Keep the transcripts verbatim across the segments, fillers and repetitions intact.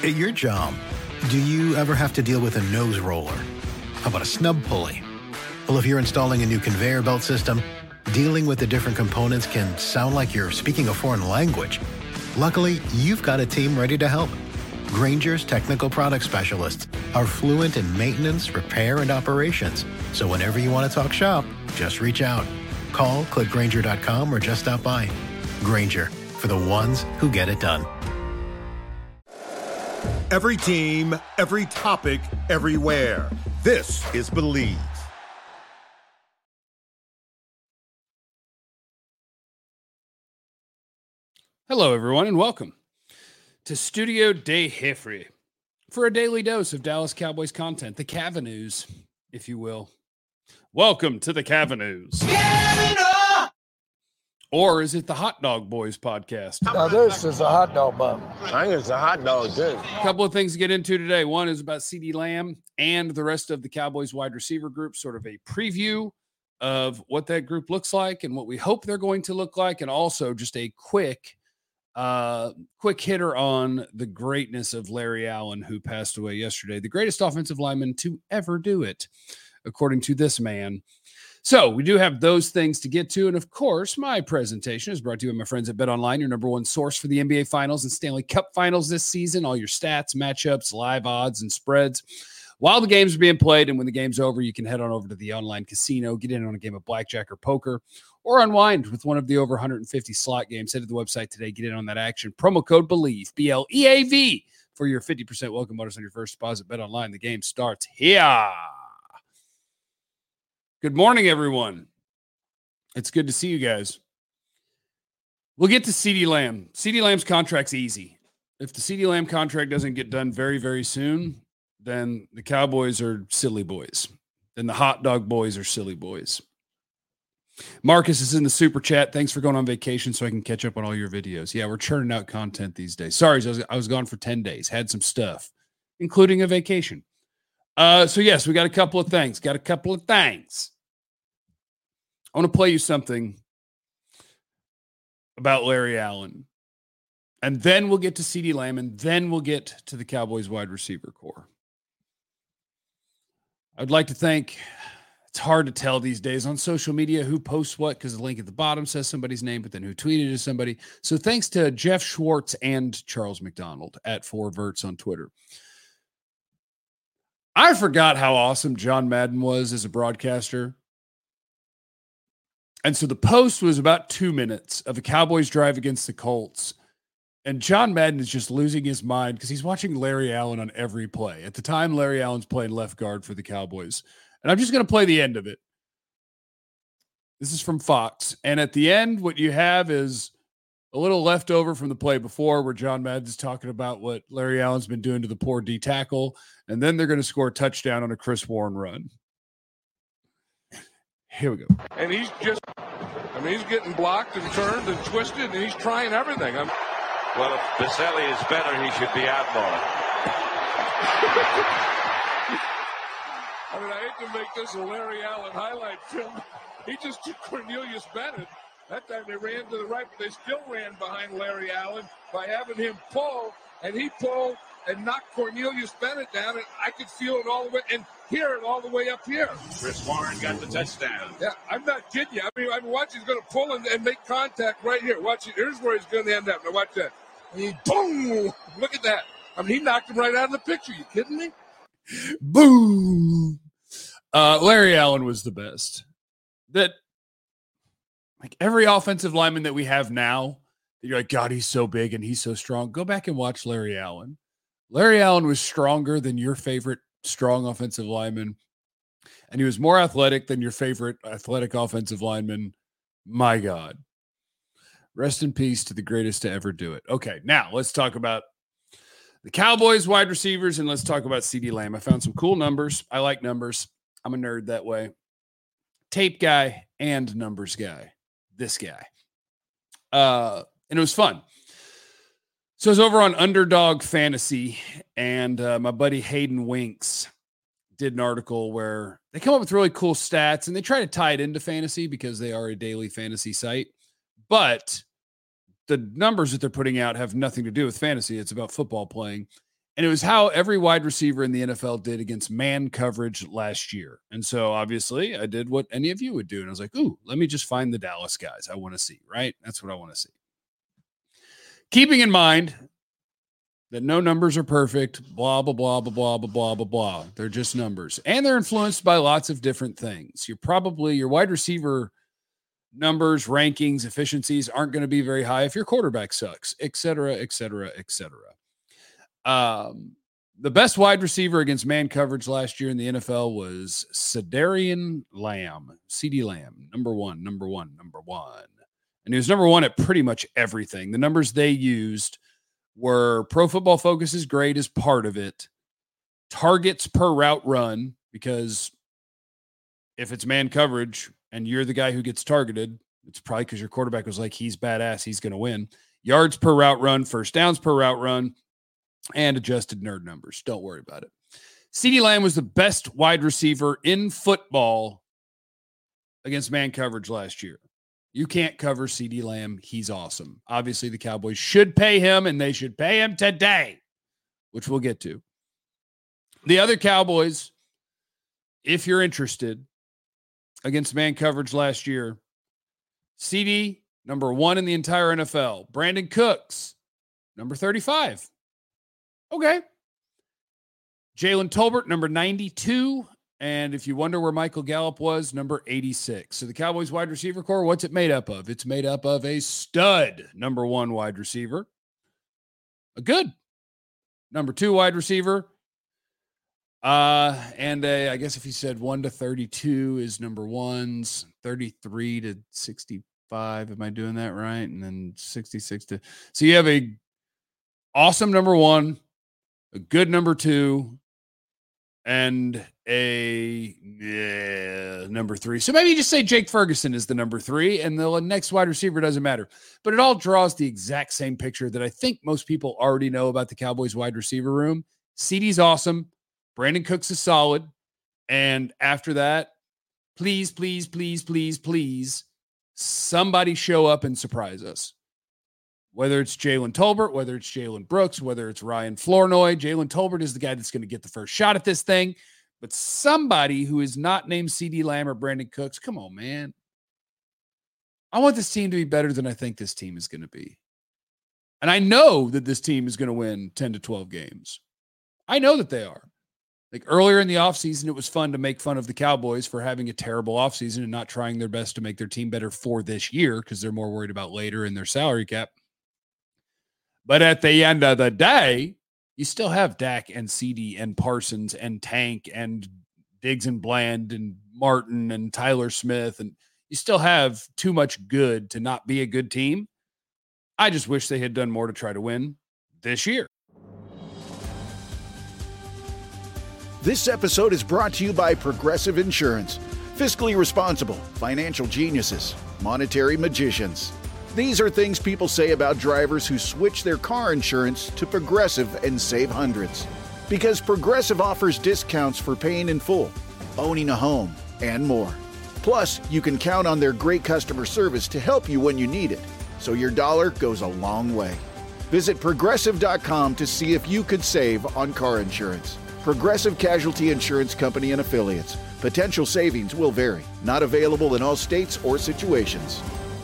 At your job, do you ever have to deal with a nose roller? How about a snub pulley? Well, if you're installing a new conveyor belt system, dealing with the different components can sound like you're speaking a foreign language. Luckily, you've got a team ready to help. Grainger's technical product specialists are fluent in maintenance, repair, and operations. So whenever you want to talk shop, just reach out. Call, click Grainger dot com, or just stop by. Grainger, for the ones who get it done. Every team, every topic, everywhere. This is Believe. Hello, everyone, and welcome to Studio de Jeffrey for a daily dose of Dallas Cowboys content, the Cavanews, if you will. Welcome to the Cavanews. Or is it the Hot Dog Boys podcast? Now, this is a hot dog bun. I think it's a hot dog, too. A couple of things to get into today. One is about CeeDee Lamb and the rest of the Cowboys wide receiver group, sort of a preview of what that group looks like and what we hope they're going to look like, and also just a quick uh, quick hitter on the greatness of Larry Allen, who passed away yesterday, the greatest offensive lineman to ever do it, according to this man. So we do have those things to get to. And of course, my presentation is brought to you by my friends at BetOnline, your number one source for the N B A Finals and Stanley Cup Finals this season. All your stats, matchups, live odds, and spreads. While the games are being played and when the game's over, you can head on over to the online casino, get in on a game of blackjack or poker, or unwind with one of the over one hundred fifty slot games. Head to the website today, get in on that action. Promo code BELIEVE, B L E A V, for your fifty percent welcome bonus on your first deposit. BetOnline, the game starts here. Good morning, everyone. It's good to see you guys. We'll get to CeeDee Lamb. CeeDee Lamb's contract's easy. If the CeeDee Lamb contract doesn't get done very, very soon, then the Cowboys are silly boys. Then the hot dog boys are silly boys. Marcus is in the super chat. Thanks for going on vacation so I can catch up on all your videos. Yeah, we're churning out content these days. Sorry, I was, I was gone for ten days. Had some stuff, including a vacation. Uh, so, yes, we got a couple of things. Got a couple of things. I want to play you something about Larry Allen. And then we'll get to CeeDee Lamb, and then we'll get to the Cowboys wide receiver core. I'd like to thank, it's hard to tell these days on social media who posts what, because the link at the bottom says somebody's name, but then who tweeted is somebody. So thanks to Jeff Schwartz and Charles McDonald at four verts on Twitter. I forgot how awesome John Madden was as a broadcaster. And so the post was about two minutes of a Cowboys drive against the Colts. And John Madden is just losing his mind because he's watching Larry Allen on every play. At the time, Larry Allen's playing left guard for the Cowboys. And I'm just going to play the end of it. This is from Fox. And at the end, what you have is a little leftover from the play before where John Madden's talking about what Larry Allen's been doing to the poor D tackle. And then they're going to score a touchdown on a Chris Warren run. Here we go. And he's just, I mean, he's getting blocked and turned and twisted, and he's trying everything. I'm, well, if Baselli is better, he should be out more. I mean, I hate to make this a Larry Allen highlight film. He just took Cornelius Bennett. That time they ran to the right, but they still ran behind Larry Allen by having him pull, and he pulled and knocked Cornelius Bennett down, and I could feel it all the way and hear it all the way up here. Chris Warren got the touchdown. Yeah, I'm not kidding you. I mean, I'm watching. He's going to pull and, and make contact right here. Watch it. Here's where he's going to end up. Now watch that. And he, boom! Look at that. I mean, he knocked him right out of the picture. You kidding me? Boom! Uh, Larry Allen was the best. That, like every offensive lineman that we have now, you're like, God, he's so big and he's so strong. Go back and watch Larry Allen. Larry Allen was stronger than your favorite strong offensive lineman, and he was more athletic than your favorite athletic offensive lineman. My God. Rest in peace to the greatest to ever do it. Okay, now let's talk about the Cowboys wide receivers, and let's talk about CeeDee Lamb. I found some cool numbers. I like numbers. I'm a nerd that way. Tape guy and numbers guy. This guy. Uh, and it was fun. So I was over on Underdog Fantasy, and uh, my buddy Hayden Winks did an article where they come up with really cool stats, and they try to tie it into fantasy because they are a daily fantasy site. But the numbers that they're putting out have nothing to do with fantasy. It's about football playing. And it was how every wide receiver in the N F L did against man coverage last year. And so obviously I did what any of you would do. And I was like, ooh, let me just find the Dallas guys I want to see, right? That's what I want to see. Keeping in mind that no numbers are perfect, blah, blah, blah, blah, blah, blah, blah, blah, blah. They're just numbers. And they're influenced by lots of different things. You're probably, your wide receiver numbers, rankings, efficiencies aren't going to be very high if your quarterback sucks, et cetera, et cetera, et cetera. Um, the best wide receiver against man coverage last year in the N F L was Cedarian Lamb, CeeDee Lamb, number one, number one, number one. And he was number one at pretty much everything. The numbers they used were Pro Football Focus's grade as part of it, targets per route run, because if it's man coverage and you're the guy who gets targeted, it's probably because your quarterback was like, he's badass, he's going to win. Yards per route run, first downs per route run, and adjusted nerd numbers. Don't worry about it. CeeDee Lamb was the best wide receiver in football against man coverage last year. You can't cover CeeDee Lamb. He's awesome. Obviously, the Cowboys should pay him, and they should pay him today, which we'll get to. The other Cowboys, if you're interested, against man coverage last year, CeeDee, number one in the entire N F L. Brandon Cooks, number thirty-five. Okay. Jalen Tolbert, number ninety-two. And if you wonder where Michael Gallup was, number eighty-six. So the Cowboys wide receiver core, what's it made up of? It's made up of a stud number one wide receiver, a good number two wide receiver, uh, and a, I guess if you said one to thirty-two is number ones, thirty-three to sixty-five. Am I doing that right? And then sixty-six to, so you have a awesome number one, a good number two, and a yeah, number three. So maybe you just say Jake Ferguson is the number three, and the next wide receiver doesn't matter. But it all draws the exact same picture that I think most people already know about the Cowboys wide receiver room. CeeDee's awesome. Brandon Cooks is solid. And after that, please, please, please, please, please, somebody show up and surprise us. Whether it's Jalen Tolbert, whether it's Jalen Brooks, whether it's Ryan Flournoy, Jalen Tolbert is the guy that's going to get the first shot at this thing. But somebody who is not named CeeDee Lamb or Brandon Cooks, come on, man. I want this team to be better than I think this team is going to be. And I know that this team is going to win ten to twelve games. I know that they are. Like earlier in the offseason, it was fun to make fun of the Cowboys for having a terrible offseason and not trying their best to make their team better for this year because they're more worried about later in their salary cap. But at the end of the day, you still have Dak and CeeDee and Parsons and Tank and Diggs and Bland and Martin and Tyler Smith. And you still have too much good to not be a good team. I just wish they had done more to try to win this year. This episode is brought to you by Progressive Insurance. Fiscally responsible, financial geniuses, monetary magicians. These are things people say about drivers who switch their car insurance to Progressive and save hundreds. Because Progressive offers discounts for paying in full, owning a home, and more. Plus, you can count on their great customer service to help you when you need it, so your dollar goes a long way. Visit Progressive dot com to see if you could save on car insurance. Progressive Casualty Insurance Company and Affiliates. Potential savings will vary. Not available in all states or situations.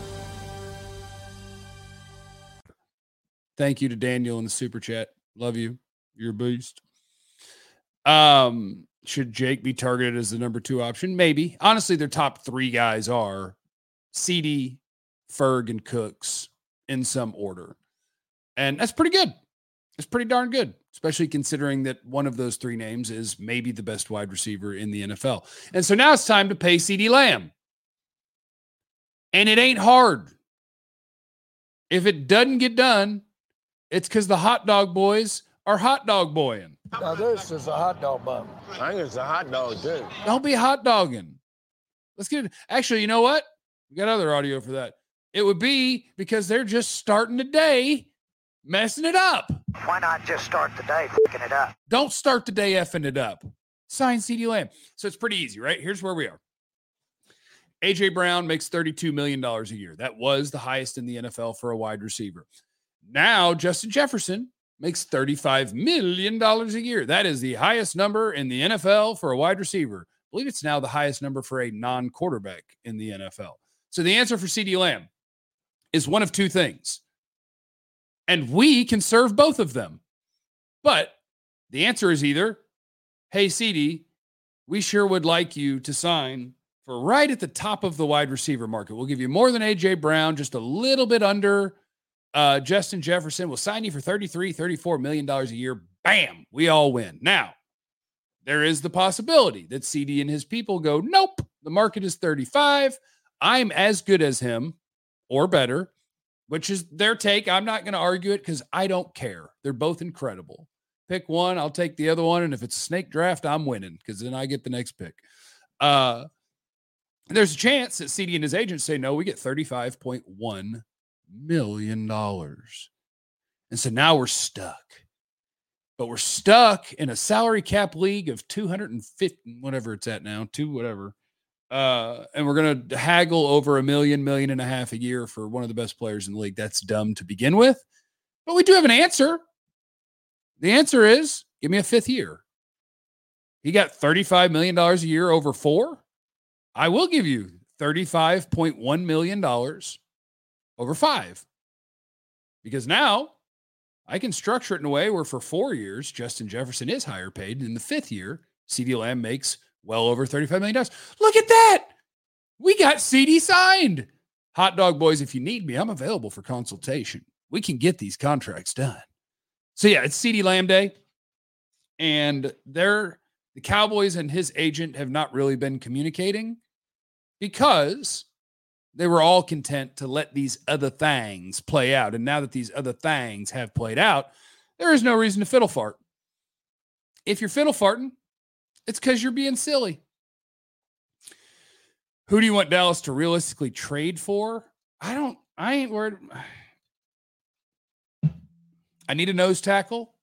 Thank you to Daniel in the super chat. Love you. You're a boost. Um, should Jake be targeted as the number two option? Maybe. Honestly, their top three guys are CeeDee, Ferg, and Cooks in some order. And that's pretty good. It's pretty darn good, especially considering that one of those three names is maybe the best wide receiver in the N F L. And so now it's time to pay CeeDee Lamb. And it ain't hard. If it doesn't get done, it's because the hot dog boys are hot dog boying. Now this is a hot dog bun. I think it's a hot dog, too. Don't be hot dogging. Let's get it. Actually, you know what? We got other audio for that. It would be because they're just starting today messing it up. Why not just start the day fucking it up? Don't start the day effing it up. Sign CeeDee Lamb. So it's pretty easy, right? Here's where we are. A J Brown makes thirty-two million dollars a year. That was the highest in the N F L for a wide receiver. Now, Justin Jefferson makes thirty-five million dollars a year. That is the highest number in the N F L for a wide receiver. I believe it's now the highest number for a non-quarterback in the N F L. So the answer for CeeDee Lamb is one of two things. And we can serve both of them. But the answer is either, hey, CeeDee, we sure would like you to sign for right at the top of the wide receiver market. We'll give you more than A J Brown, just a little bit under uh, Justin Jefferson. We'll sign you for thirty-three, thirty-four million dollars a year. Bam, we all win. Now, there is the possibility that CeeDee and his people go, nope, the market is thirty-five. I'm as good as him or better, which is their take. I'm not going to argue it because I don't care. They're both incredible. Pick one, I'll take the other one. And if it's a snake draft, I'm winning because then I get the next pick. Uh, there's a chance that CeeDee and his agents say, no, we get thirty-five point one million dollars. And so now we're stuck. But we're stuck in a salary cap league of two hundred fifty, whatever it's at now, two whatever. Uh, and we're going to haggle over a million, million and a half a year for one of the best players in the league. That's dumb to begin with. But we do have an answer. The answer is, give me a fifth year. He got thirty-five million dollars a year over four. I will give you thirty-five point one million dollars over five. Because now I can structure it in a way where for four years, Justin Jefferson is higher paid. And in the fifth year, CeeDee Lamb makes well over thirty-five million dollars. Look at that. We got CeeDee signed. Hot dog boys, if you need me, I'm available for consultation. We can get these contracts done. So yeah, it's CeeDee Lamb Day. And they're, the Cowboys and his agent have not really been communicating because they were all content to let these other things play out. And now that these other things have played out, there is no reason to fiddle fart. If you're fiddle farting, it's because you're being silly. Who do you want Dallas to realistically trade for? I don't, I ain't worried. I need a nose tackle.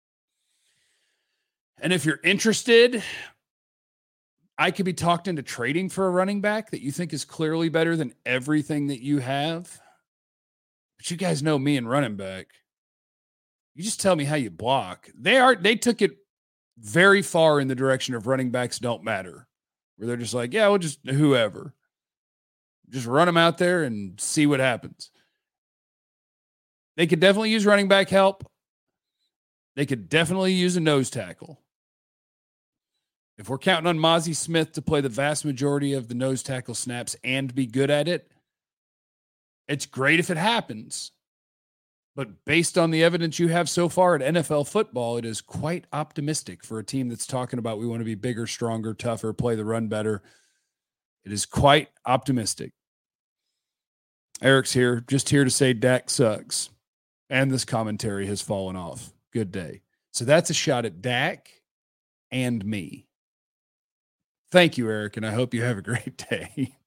And if you're interested, I could be talked into trading for a running back that you think is clearly better than everything that you have. But you guys know me and running back. You just tell me how you block. They are, they took it very far in the direction of running backs don't matter, where they're just like, yeah, we'll just whoever. Just run them out there and see what happens. They could definitely use running back help. They could definitely use a nose tackle. If we're counting on Mozzie Smith to play the vast majority of the nose tackle snaps and be good at it, it's great if it happens. But based on the evidence you have so far at N F L football, it is quite optimistic for a team that's talking about we want to be bigger, stronger, tougher, play the run better. It is quite optimistic. Eric's here, just here to say Dak sucks. And this commentary has fallen off. Good day. So that's a shot at Dak and me. Thank you, Eric, and I hope you have a great day.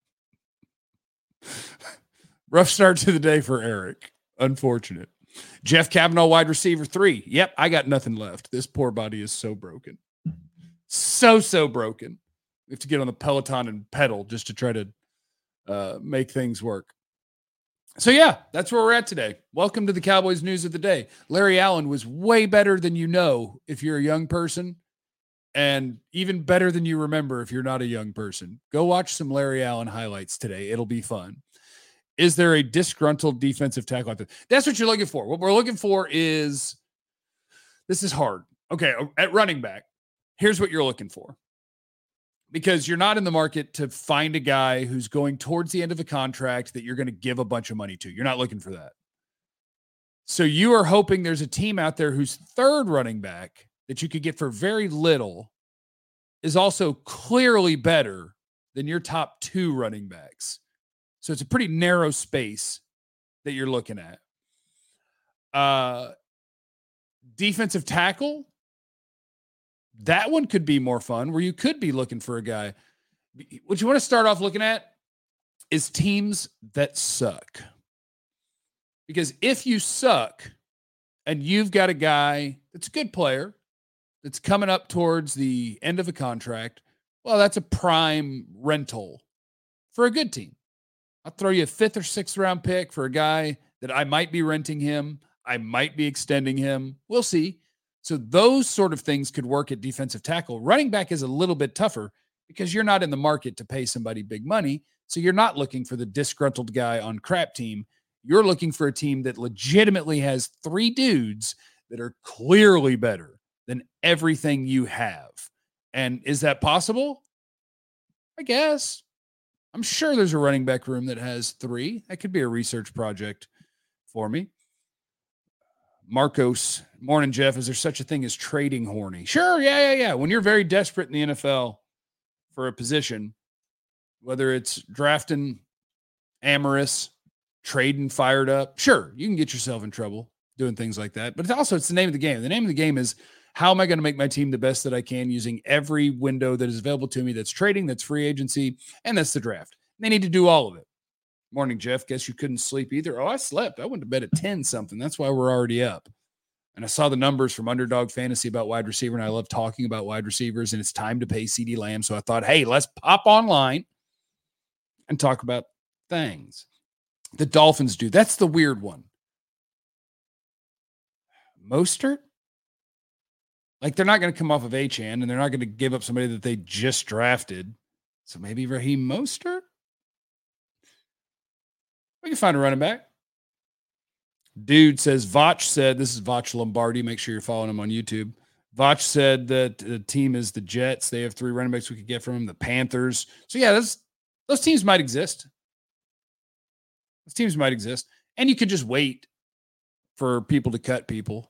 Rough start to the day for Eric. Unfortunate. Jeff Kavanaugh, wide receiver three. Yep, I got nothing left. This poor body is so broken. So, so broken. We have to get on the Peloton and pedal just to try to uh, make things work. So, yeah, that's where we're at today. Welcome to the Cowboys news of the day. Larry Allen was way better than you know if you're a young person, and even better than you remember if you're not a young person. Go watch some Larry Allen highlights today. It'll be fun. Is there a disgruntled defensive tackle out there? That's what you're looking for. What we're looking for is, this is hard. Okay, at running back, here's what you're looking for. Because you're not in the market to find a guy who's going towards the end of a contract that you're going to give a bunch of money to. You're not looking for that. So you are hoping there's a team out there whose third running back that you could get for very little is also clearly better than your top two running backs. So it's a pretty narrow space that you're looking at. Uh, defensive tackle, that one could be more fun, where you could be looking for a guy. What you want to start off looking at is teams that suck. Because if you suck and you've got a guy that's a good player that's coming up towards the end of a contract, well, that's a prime rental for a good team. I'll throw you a fifth or sixth round pick for a guy that I might be renting him. I might be extending him. We'll see. So those sort of things could work at defensive tackle. Running back is a little bit tougher because you're not in the market to pay somebody big money. So you're not looking for the disgruntled guy on crap team. You're looking for a team that legitimately has three dudes that are clearly better than everything you have. And is that possible? I guess. I'm sure there's a running back room that has three. That could be a research project for me. Marcos, morning, Jeff. Is there such a thing as trading horny? Sure, yeah, yeah, yeah. When you're very desperate in the N F L for a position, whether it's drafting amorous, trading fired up, sure, you can get yourself in trouble doing things like that. But it's also, it's the name of the game. The name of the game is, how am I going to make my team the best that I can using every window that is available to me? That's trading, that's free agency, and that's the draft. They need to do all of it. Morning, Jeff. Guess you couldn't sleep either. Oh, I slept. I went to bed at ten something. That's why we're already up. And I saw the numbers from Underdog Fantasy about wide receiver, and I love talking about wide receivers, and it's time to pay CeeDee Lamb. So I thought, hey, let's pop online and talk about things. The Dolphins do. That's the weird one. Mostert? Like, they're not going to come off of Achane, and they're not going to give up somebody that they just drafted. So maybe Raheem Mostert? We can find a running back. Dude says, Vach said, this is Vach Lombardi. Make sure you're following him on YouTube. Vach said that the team is the Jets. They have three running backs we could get from them. The Panthers. So, yeah, those, those teams might exist. Those teams might exist. And you could just wait for people to cut people.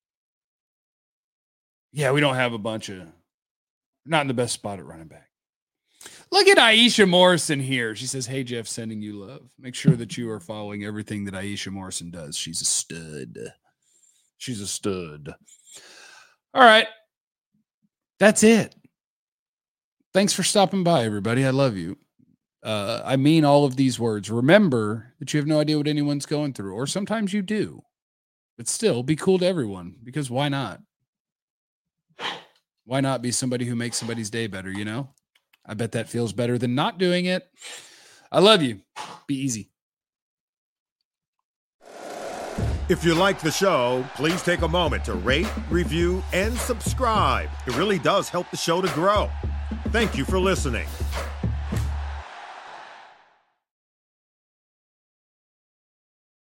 Yeah, we don't have a bunch of, not in the best spot at running back. Look at Aisha Morrison here. She says, hey, Jeff, sending you love. Make sure that you are following everything that Aisha Morrison does. She's a stud. She's a stud. All right. That's it. Thanks for stopping by, everybody. I love you. Uh, I mean all of these words. Remember that you have no idea what anyone's going through, or sometimes you do. But still, be cool to everyone, because why not? Why not be somebody who makes somebody's day better, you know? I bet that feels better than not doing it. I love you. Be easy. If you like the show, please take a moment to rate, review, and subscribe. It really does help the show to grow. Thank you for listening.